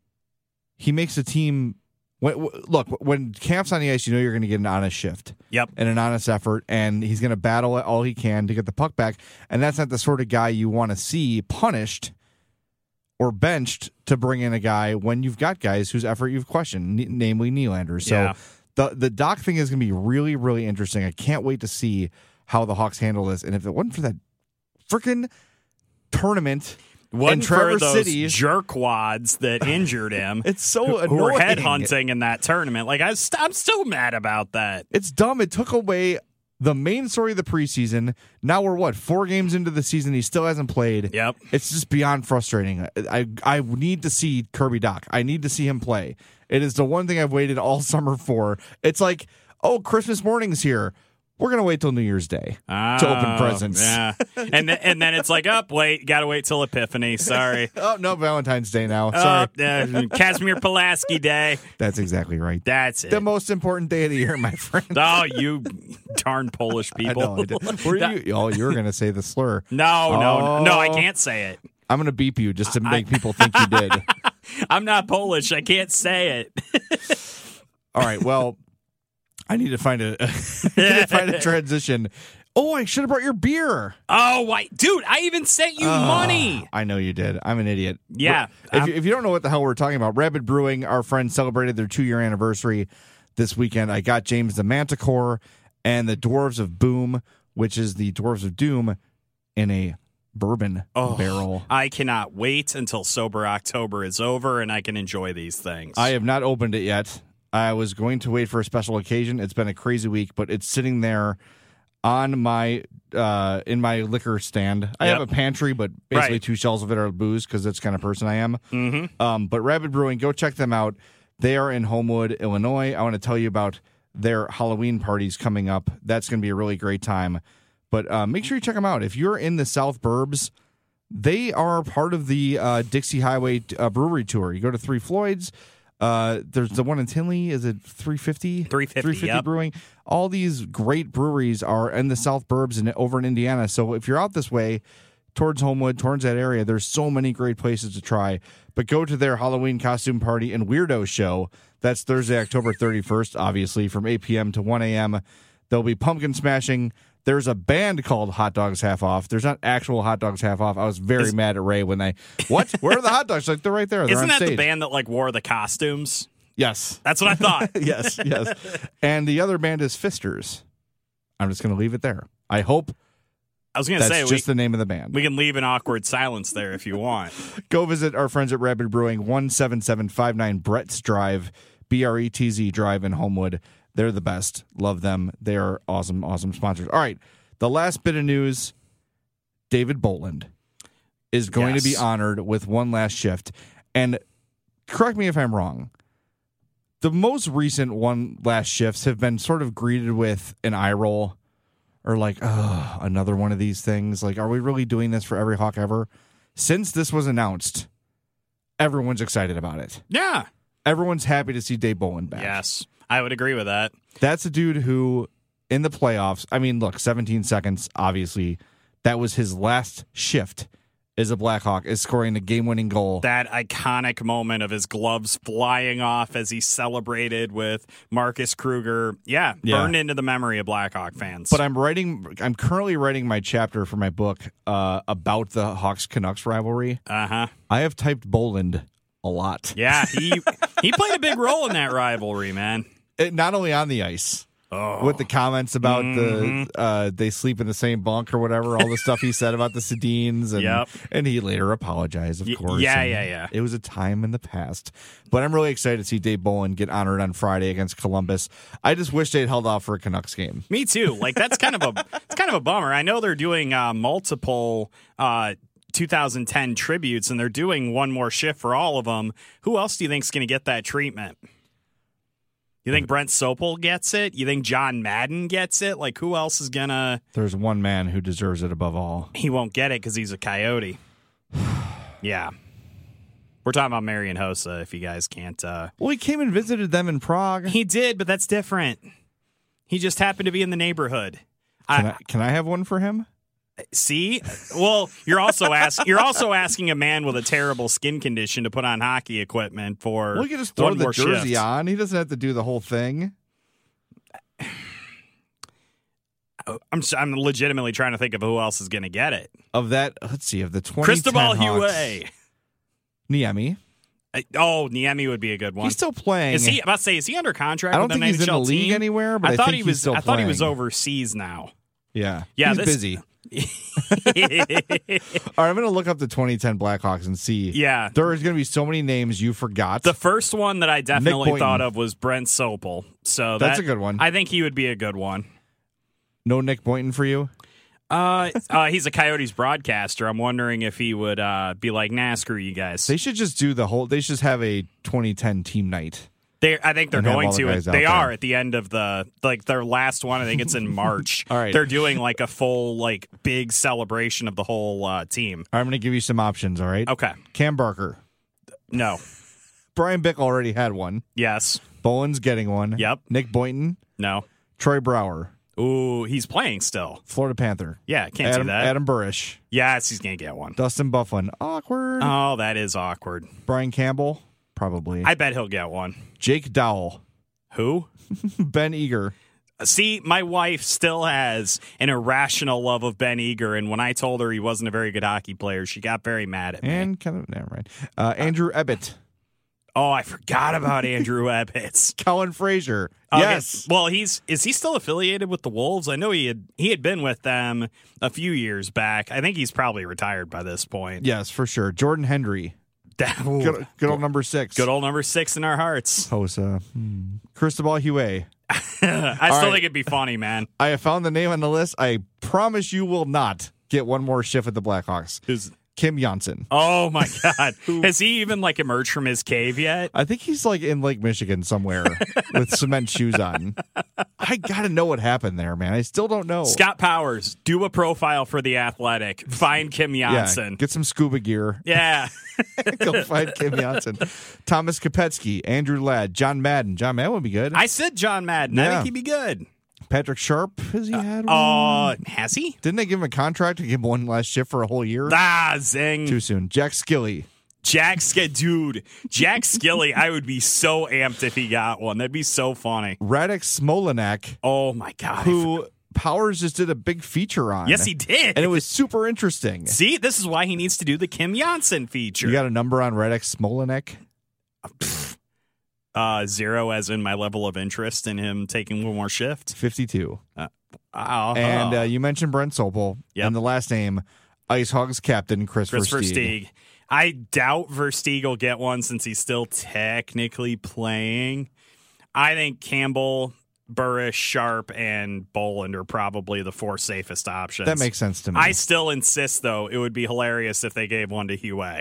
he makes a team. Look, when Kampf's on the ice, you know you're going to get an honest shift. Yep. And an honest effort, and he's going to battle it all he can to get the puck back. And that's not the sort of guy you want to see punished or benched to bring in a guy when you've got guys whose effort you've questioned, namely Nylander. So the Doc thing is going to be really, really interesting. I can't wait to see how the Hawks handle this. And if it wasn't for that freaking tournament in Traverse City, jerkwads that injured him, it's so annoying. Who were headhunting in that tournament. Like I'm still mad about that. It's dumb. It took away the main story of the preseason. Now we're 4 games into the season. He still hasn't played. Yep. It's just beyond frustrating. I need to see Kirby Doc. I need to see him play. It is the one thing I've waited all summer for. It's like oh, Christmas morning's here. We're going to wait till New Year's Day to open presents. Yeah. and then it's like, wait, got to wait till Epiphany. Sorry. Oh, no, Valentine's Day now. Sorry. Casimir Pulaski Day. That's exactly right. That's it. The most important day of the year, my friend. Oh, you darn Polish people. I did. You were going to say the slur. No, I can't say it. I'm going to beep you just to make people think you did. I'm not Polish. I can't say it. All right, well, I need to find a transition. Oh, I should have brought your beer. Oh, dude, I even sent you money. I know you did. I'm an idiot. Yeah. If you don't know what the hell we're talking about, Rabid Brewing, our friends celebrated their 2-year anniversary this weekend. I got James the Manticore and the Dwarves of Boom, which is the Dwarves of Doom in a bourbon barrel. I cannot wait until Sober October is over and I can enjoy these things. I have not opened it yet. I was going to wait for a special occasion. It's been a crazy week, but it's sitting there on my in my liquor stand. I have a pantry, but basically 2 shelves of it are booze because that's the kind of person I am. Mm-hmm. But Rabid Brewing, go check them out. They are in Homewood, Illinois. I want to tell you about their Halloween parties coming up. That's going to be a really great time. But make sure you check them out. If you're in the South Burbs, they are part of the Dixie Highway Brewery Tour. You go to Three Floyds. There's the one in Tinley. Is it 350? 350 yep. Brewing. All these great breweries are in the South Burbs and over in Indiana. So if you're out this way, towards Homewood, towards that area, there's so many great places to try. But go to their Halloween costume party and weirdo show. That's Thursday, October 31st, obviously, from 8 p.m. to 1 a.m. There'll be pumpkin smashing. There's a band called Hot Dogs Half Off. There's not actual Hot Dogs Half Off. I was very mad at Ray when what? Where are the hot dogs? Like, they're right there. They're Isn't on that stage. the band that wore the costumes? Yes. That's what I thought. yes. And the other band is Fisters. I'm just going to leave it there. I hope I was going to say that's just the name of the band. We can leave an awkward silence there if you want. Go visit our friends at Rabid Brewing, 17759 Brett's Drive, BRETZ Drive in Homewood. They're the best. Love them. They are awesome, awesome sponsors. All right. The last bit of news, David Bolland is going to be honored with one last shift. And correct me if I'm wrong. The most recent one last shifts have been sort of greeted with an eye roll or like, oh, another one of these things. Like, are we really doing this for every Hawk ever? Since this was announced, everyone's excited about it. Yeah. Everyone's happy to see Dave Bolland back. Yes, I would agree with that. That's a dude who, in the playoffs, I mean, look, 17 seconds, obviously, that was his last shift as a Blackhawk, is scoring the game-winning goal. That iconic moment of his gloves flying off as he celebrated with Marcus Kruger. Yeah, burned into the memory of Blackhawk fans. But I'm currently writing my chapter for my book about the Hawks-Canucks rivalry. Uh-huh. I have typed Bolland a lot. Yeah, he played a big role in that rivalry, man. Not only on the ice. With the comments about they sleep in the same bunk or whatever, all the stuff he said about the Sedins, and he later apologized, of course. Yeah. It was a time in the past. But I'm really excited to see Dave Bolland get honored on Friday against Columbus. I just wish they'd held off for a Canucks game. Me too. Like, that's kind of a bummer. I know they're doing multiple 2010 tributes, and they're doing one more shift for all of them. Who else do you think's going to get that treatment? You think Brent Sopel gets it? You think John Madden gets it? Like, who else is going to... There's one man who deserves it above all. He won't get it because he's a Coyote. Yeah. We're talking about Marian Hossa, if you guys can't... Well, he came and visited them in Prague. He did, but that's different. He just happened to be in the neighborhood. Can I have one for him? See? Well, you're also asking a man with a terrible skin condition to put on hockey equipment for well, he can just throw the jersey shift. on. He doesn't have to do the whole thing. I'm legitimately trying to think of who else is going to get it. Of that, let's see, of the 2010 Cristobal Hawks, Huet. Niemi. Niemi would be a good one. He's still playing. Is he under contract? I don't with think an he's NHL in the league team? anywhere, but I think he's still playing. I thought he was overseas now. Yeah. Yeah, he's busy. All right, I'm going to look up the 2010 Blackhawks and see. Yeah. There is going to be so many names you forgot. The first one that I definitely thought of was Brent Sopel. So that's a good one. I think he would be a good one. No Nick Boynton for you? He's a Coyotes broadcaster. I'm wondering if he would be like, nah, screw you guys. They should just do they should just have a 2010 team night. I think they're And have going all the to. guys out They there. are at the end of their last one. I think it's in March. All right. They're doing like a full big celebration of the whole team. I'm going to give you some options, all right? Okay. Cam Barker. No. Brian Bick already had one. Yes. Bowen's getting one. Yep. Nick Boynton. No. Troy Brower. Ooh, he's playing still. Florida Panther. Yeah, can't see that. Adam Burrish. Yes, he's going to get one. Dustin Bufflin. Awkward. Oh, that is awkward. Brian Campbell. Probably. I bet he'll get one. Jake Dowell. Who? Ben Eager. See, my wife still has an irrational love of Ben Eager, and when I told her he wasn't a very good hockey player, she got very mad at me. And kind of, never mind. Andrew Ebbett. Oh, I forgot about Andrew Ebbets. Colin Frazier. Okay. Yes. Well, is he still affiliated with the Wolves? I know he had been with them a few years back. I think he's probably retired by this point. Yes, for sure. Jordan Henry. Good old number 6. Good old number 6 in our hearts. Hosa. Cristobal Huey. I still right. think it'd be funny, man. I have found the name on the list. I promise you will not get one more shift at the Blackhawks. Who's Kim Janssen. Oh my God. Has he even emerged from his cave yet? I think he's in Lake Michigan somewhere with cement shoes on. I got to know what happened there, man. I still don't know. Scott Powers, do a profile for The Athletic. Find Kim Janssen. Yeah, get some scuba gear. Yeah. Go find Kim Janssen. Thomas Kopetsky, Andrew Ladd, John Madden. John Madden would be good. I said John Madden. I Yeah. think he'd be good. Patrick Sharp, has he had one? Has he? Didn't they give him a contract to give him one last shift for a whole year? Zing. Too soon. Jack Skilly. Jack Skilly, I would be so amped if he got one. That'd be so funny. Radek Smolanek, Oh, my God. who Powers just did a big feature on. Yes, he did. And it was super interesting. See, this is why he needs to do the Kim Janssen feature. You got a number on Radek Smolanek? 0 as in my level of interest in him taking one more shift. 52. Oh. And you mentioned Brent Sopel. Yep. And the last name, Ice Hogs captain Chris Versteeg. I doubt Versteeg will get one since he's still technically playing. I think Campbell, Burrish, Sharp, and Boland are probably the 4 safest options. That makes sense to me. I still insist, though, it would be hilarious if they gave one to Huey.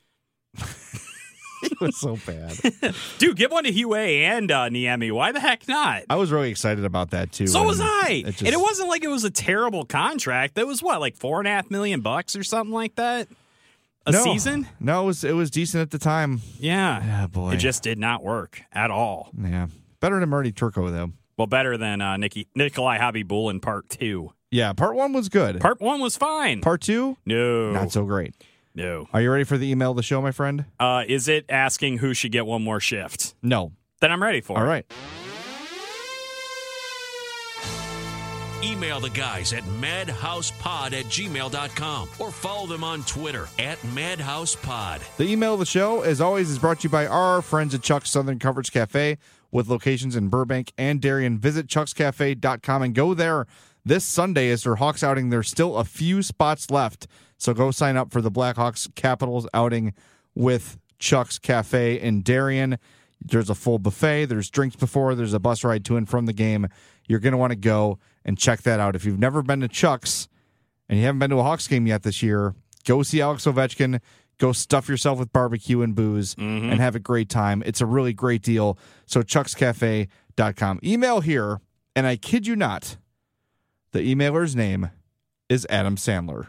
It was so bad. Dude, give one to Huey and Niemi. Why the heck not? I was really excited about that, too. So was I. Just, and it wasn't like it was a terrible contract. That was what, $4.5 million or something like that? A season? No, it was decent at the time. Yeah. Yeah, boy. It just did not work at all. Yeah. Better than Marty Turco, though. Well, better than Nikolai Habibul in part 2. Yeah, part 1 was good. Part 1 was fine. Part 2? No. Not so great. No. Are you ready for the email of the show, my friend? Is it asking who should get one more shift? No. Then I'm ready for it. All right. Email the guys at madhousepod@gmail.com or follow them on Twitter @madhousepod. The email of the show, as always, is brought to you by our friends at Chuck's Southern Coverage Cafe with locations in Burbank and Darien. Visit chuckscafe.com and go there this Sunday as their Hawks outing. There's still a few spots left, so go sign up for the Blackhawks Capitals outing with Chuck's Cafe in Darien. There's a full buffet. There's drinks before. There's a bus ride to and from the game. You're going to want to go and check that out. If you've never been to Chuck's and you haven't been to a Hawks game yet this year, go see Alex Ovechkin. Go stuff yourself with barbecue and booze and have a great time. It's a really great deal. So chuckscafe.com. Email here, and I kid you not, the emailer's name is Adam Sandler.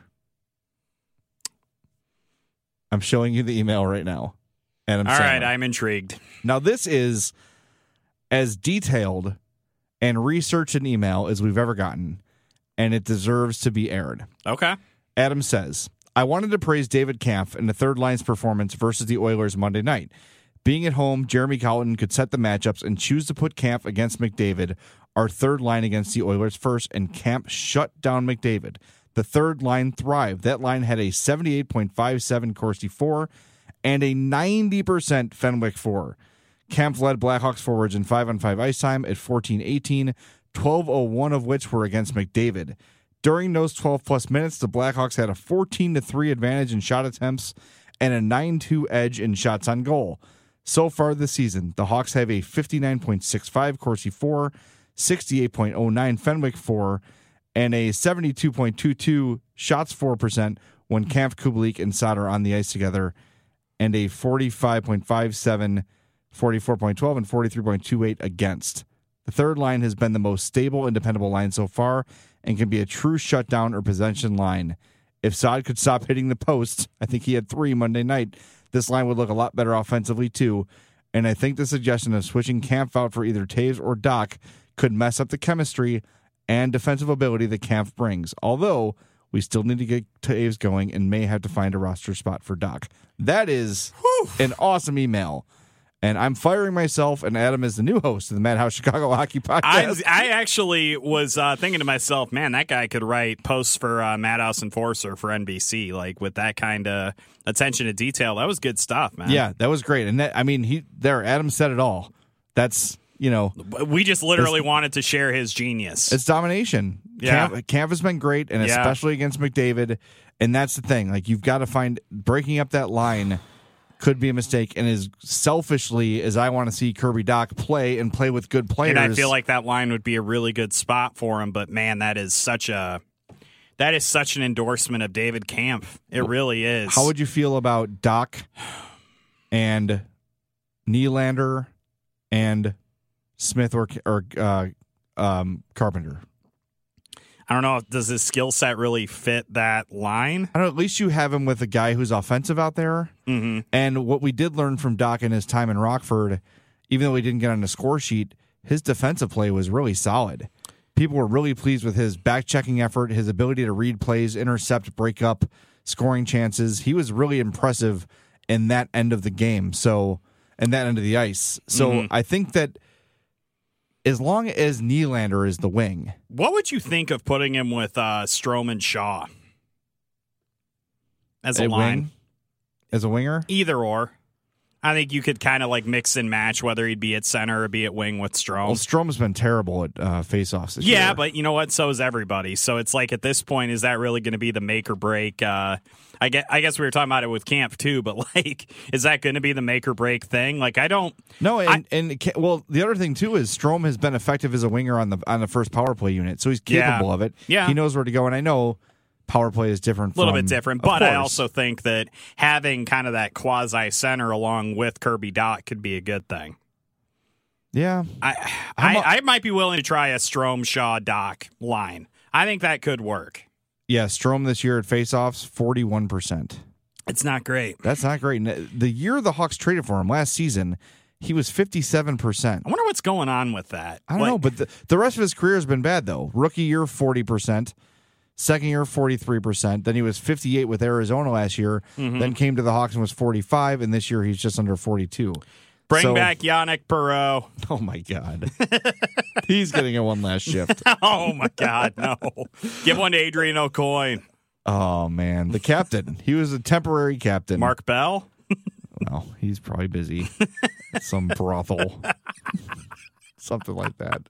I'm showing you the email right now. Adam All Sandler. right, I'm intrigued. Now, this is as detailed and researched an email as we've ever gotten, and it deserves to be aired. Okay. Adam says, I wanted to praise David Kampf in the third line's performance versus the Oilers Monday night. Being at home, Jeremy Colliton could set the matchups and choose to put Kampf against McDavid, our third line against the Oilers first, and Kampf shut down McDavid. The third line thrived. That line had a 78.57 Corsi 4 and a 90% Fenwick 4. Kampf led Blackhawks forwards in 5-on-5 ice time at 14-18, 12:01 of which were against McDavid. During those 12-plus minutes, the Blackhawks had a 14-3 advantage in shot attempts and a 9-2 edge in shots on goal. So far this season, the Hawks have a 59.65 Corsi 4, 68.09 Fenwick 4, and a 72.22 shots 4% when Kampf, Kubalik, and Saad are on the ice together, and a 45.57 44.12, and 43.28 against. The third line has been the most stable and dependable line so far and can be a true shutdown or possession line. If Saad could stop hitting the post, I think he had 3 Monday night, this line would look a lot better offensively too. And I think the suggestion of switching Kampf out for either Taves or Doc could mess up the chemistry and defensive ability that Kampf brings. Although, we still need to get Taves going and may have to find a roster spot for Doc. That is an awesome email. And I'm firing myself, and Adam is the new host of the Madhouse Chicago Hockey Podcast. I actually was thinking to myself, man, that guy could write posts for Madhouse Enforcer for NBC, like with that kind of attention to detail. That was good stuff, man. Yeah, that was great. And that, I mean, Adam said it all. That's, you know. We just literally wanted to share his genius. It's domination. Yeah. Kampf has been great, and especially against McDavid. And that's the thing. Like, you've got to find breaking up that line could be a mistake, and as selfishly as I want to see Kirby Dach play and play with good players. And I feel like that line would be a really good spot for him, but man, that is such an endorsement of David Kampf. It really is. How would you feel about Dach and Nylander and Smith or Carpenter? I don't know. Does his skill set really fit that line? I don't know. At least you have him with a guy who's offensive out there. Mm-hmm. And what we did learn from Dach in his time in Rockford, even though he didn't get on the score sheet, his defensive play was really solid. People were really pleased with his back-checking effort, his ability to read plays, intercept, break up, scoring chances. He was really impressive in that end of the game, and that end of the ice. So I think that as long as Nylander is the wing. What would you think of putting him with Strome and Shaw as a line? Wing? As a winger? Either or. I think you could kind of like mix and match whether he'd be at center or be at wing with Strome. Well, Strome's been terrible at faceoffs this year. Yeah, but you know what? So is everybody. So it's like at this point, is that really going to be the make or break? I guess we were talking about it with Kampf too, but like, is that going to be the make or break thing? Like, I don't. No, well, the other thing too is Strome has been effective as a winger on the first power play unit, so he's capable of it. Yeah, he knows where to go, and I know power play is different. A little bit different, but I also think that having kind of that quasi center along with Kirby Dach could be a good thing. Yeah, I might be willing to try a Strome Shaw Dach line. I think that could work. Yeah, Strome this year at faceoffs, 41%. It's not great. That's not great. The year the Hawks traded for him last season, he was 57%. I wonder what's going on with that. I don't know, but the rest of his career has been bad, though. Rookie year, 40%. Second year, 43%. Then he was 58 with Arizona last year. Mm-hmm. Then came to the Hawks and was 45, and this year he's just under 42. Bring back Yannick Perreault. Oh, my God. He's getting a one last shift. Oh, my God, no. Give one to Adrian Aucoin. Oh, man. The captain. He was a temporary captain. Mark Bell? Well, he's probably busy. Some brothel. Something like that.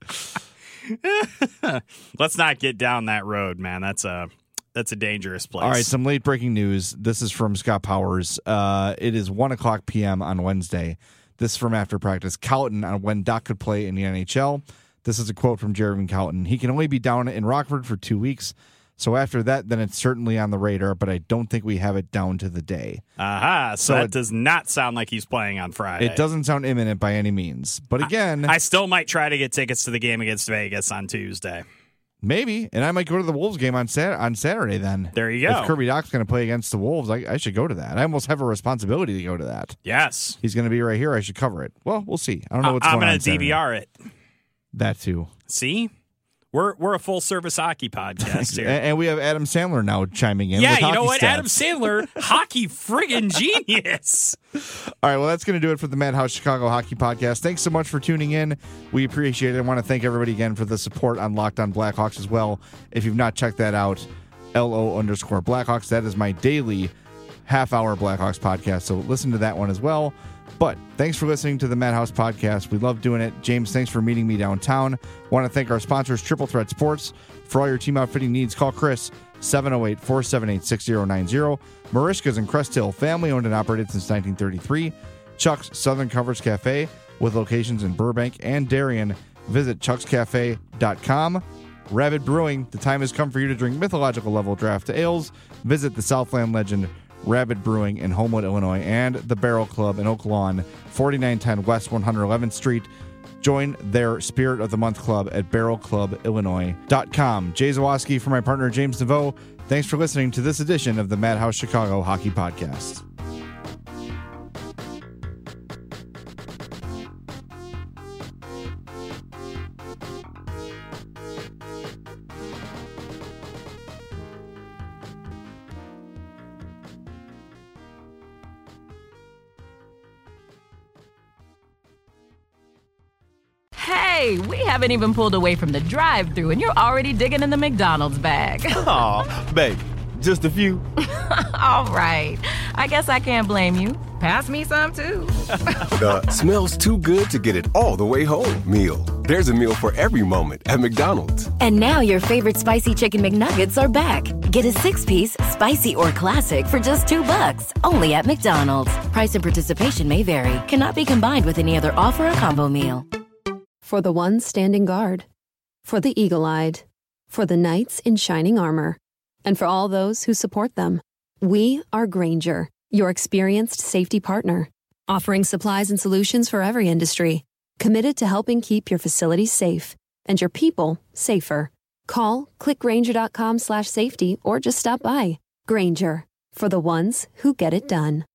Let's not get down that road, man. That's a dangerous place. All right, some late breaking news. This is from Scott Powers. It is 1:00 p.m. on Wednesday. This is from after practice. Cowton on when Doc could play in the NHL. This is a quote from Jeremy Cowton. He can only be down in Rockford for 2 weeks. So after that, then it's certainly on the radar, but I don't think we have it down to the day. Aha, so that does not sound like he's playing on Friday. It doesn't sound imminent by any means. But again, I still might try to get tickets to the game against Vegas on Tuesday. Maybe, and I might go to the Wolves game on Saturday then. There you go. If Kirby Dach's going to play against the Wolves, I should go to that. I almost have a responsibility to go to that. Yes. He's going to be right here. I should cover it. Well, we'll see. I don't know what's going on. I'm going to DVR it. That too. See? We're a full-service hockey podcast here. And we have Adam Sandler now chiming in. Yeah, with you know what? stats. Adam Sandler, hockey friggin' genius. All right, well, that's going to do it for the Madhouse Chicago Hockey Podcast. Thanks so much for tuning in. We appreciate it. I want to thank everybody again for the support on Locked On Blackhawks as well. If you've not checked that out, LO_Blackhawks. That is my daily half-hour Blackhawks podcast, so listen to that one as well. But thanks for listening to the Madhouse Podcast. We love doing it. James, thanks for meeting me downtown. Want to thank our sponsors, Triple Threat Sports. For all your team outfitting needs, call Chris, 708-478-6090. Marishka's in Crest Hill, family-owned and operated since 1933. Chuck's Southern Comforts Cafe, with locations in Burbank and Darien. Visit chuckscafe.com. Rabid Brewing, the time has come for you to drink mythological level draft ales. Visit the Southland legend Rabid Brewing in Homewood, Illinois, and the Barrel Club in Oak Lawn, 4910 West 111th Street. Join their Spirit of the Month Club at barrelclubillinois.com. Jay Zawoski for my partner James Naveau. Thanks for listening to this edition of the Madhouse Chicago Hockey Podcast. Hey, we haven't even pulled away from the drive-thru and you're already digging in the McDonald's bag. Aw, babe, just a few. All right, I guess I can't blame you. Pass me some, too. The smells too good to get it all the way home meal. There's a meal for every moment at McDonald's. And now your favorite spicy chicken McNuggets are back. Get a 6-piece, spicy or classic for just $2, only at McDonald's. Price and participation may vary. Cannot be combined with any other offer or combo meal. For the ones standing guard, for the eagle-eyed, for the knights in shining armor, and for all those who support them. We are Grainger, your experienced safety partner, offering supplies and solutions for every industry, committed to helping keep your facilities safe and your people safer. Call, click Grainger.com/safety, or just stop by. Grainger, for the ones who get it done.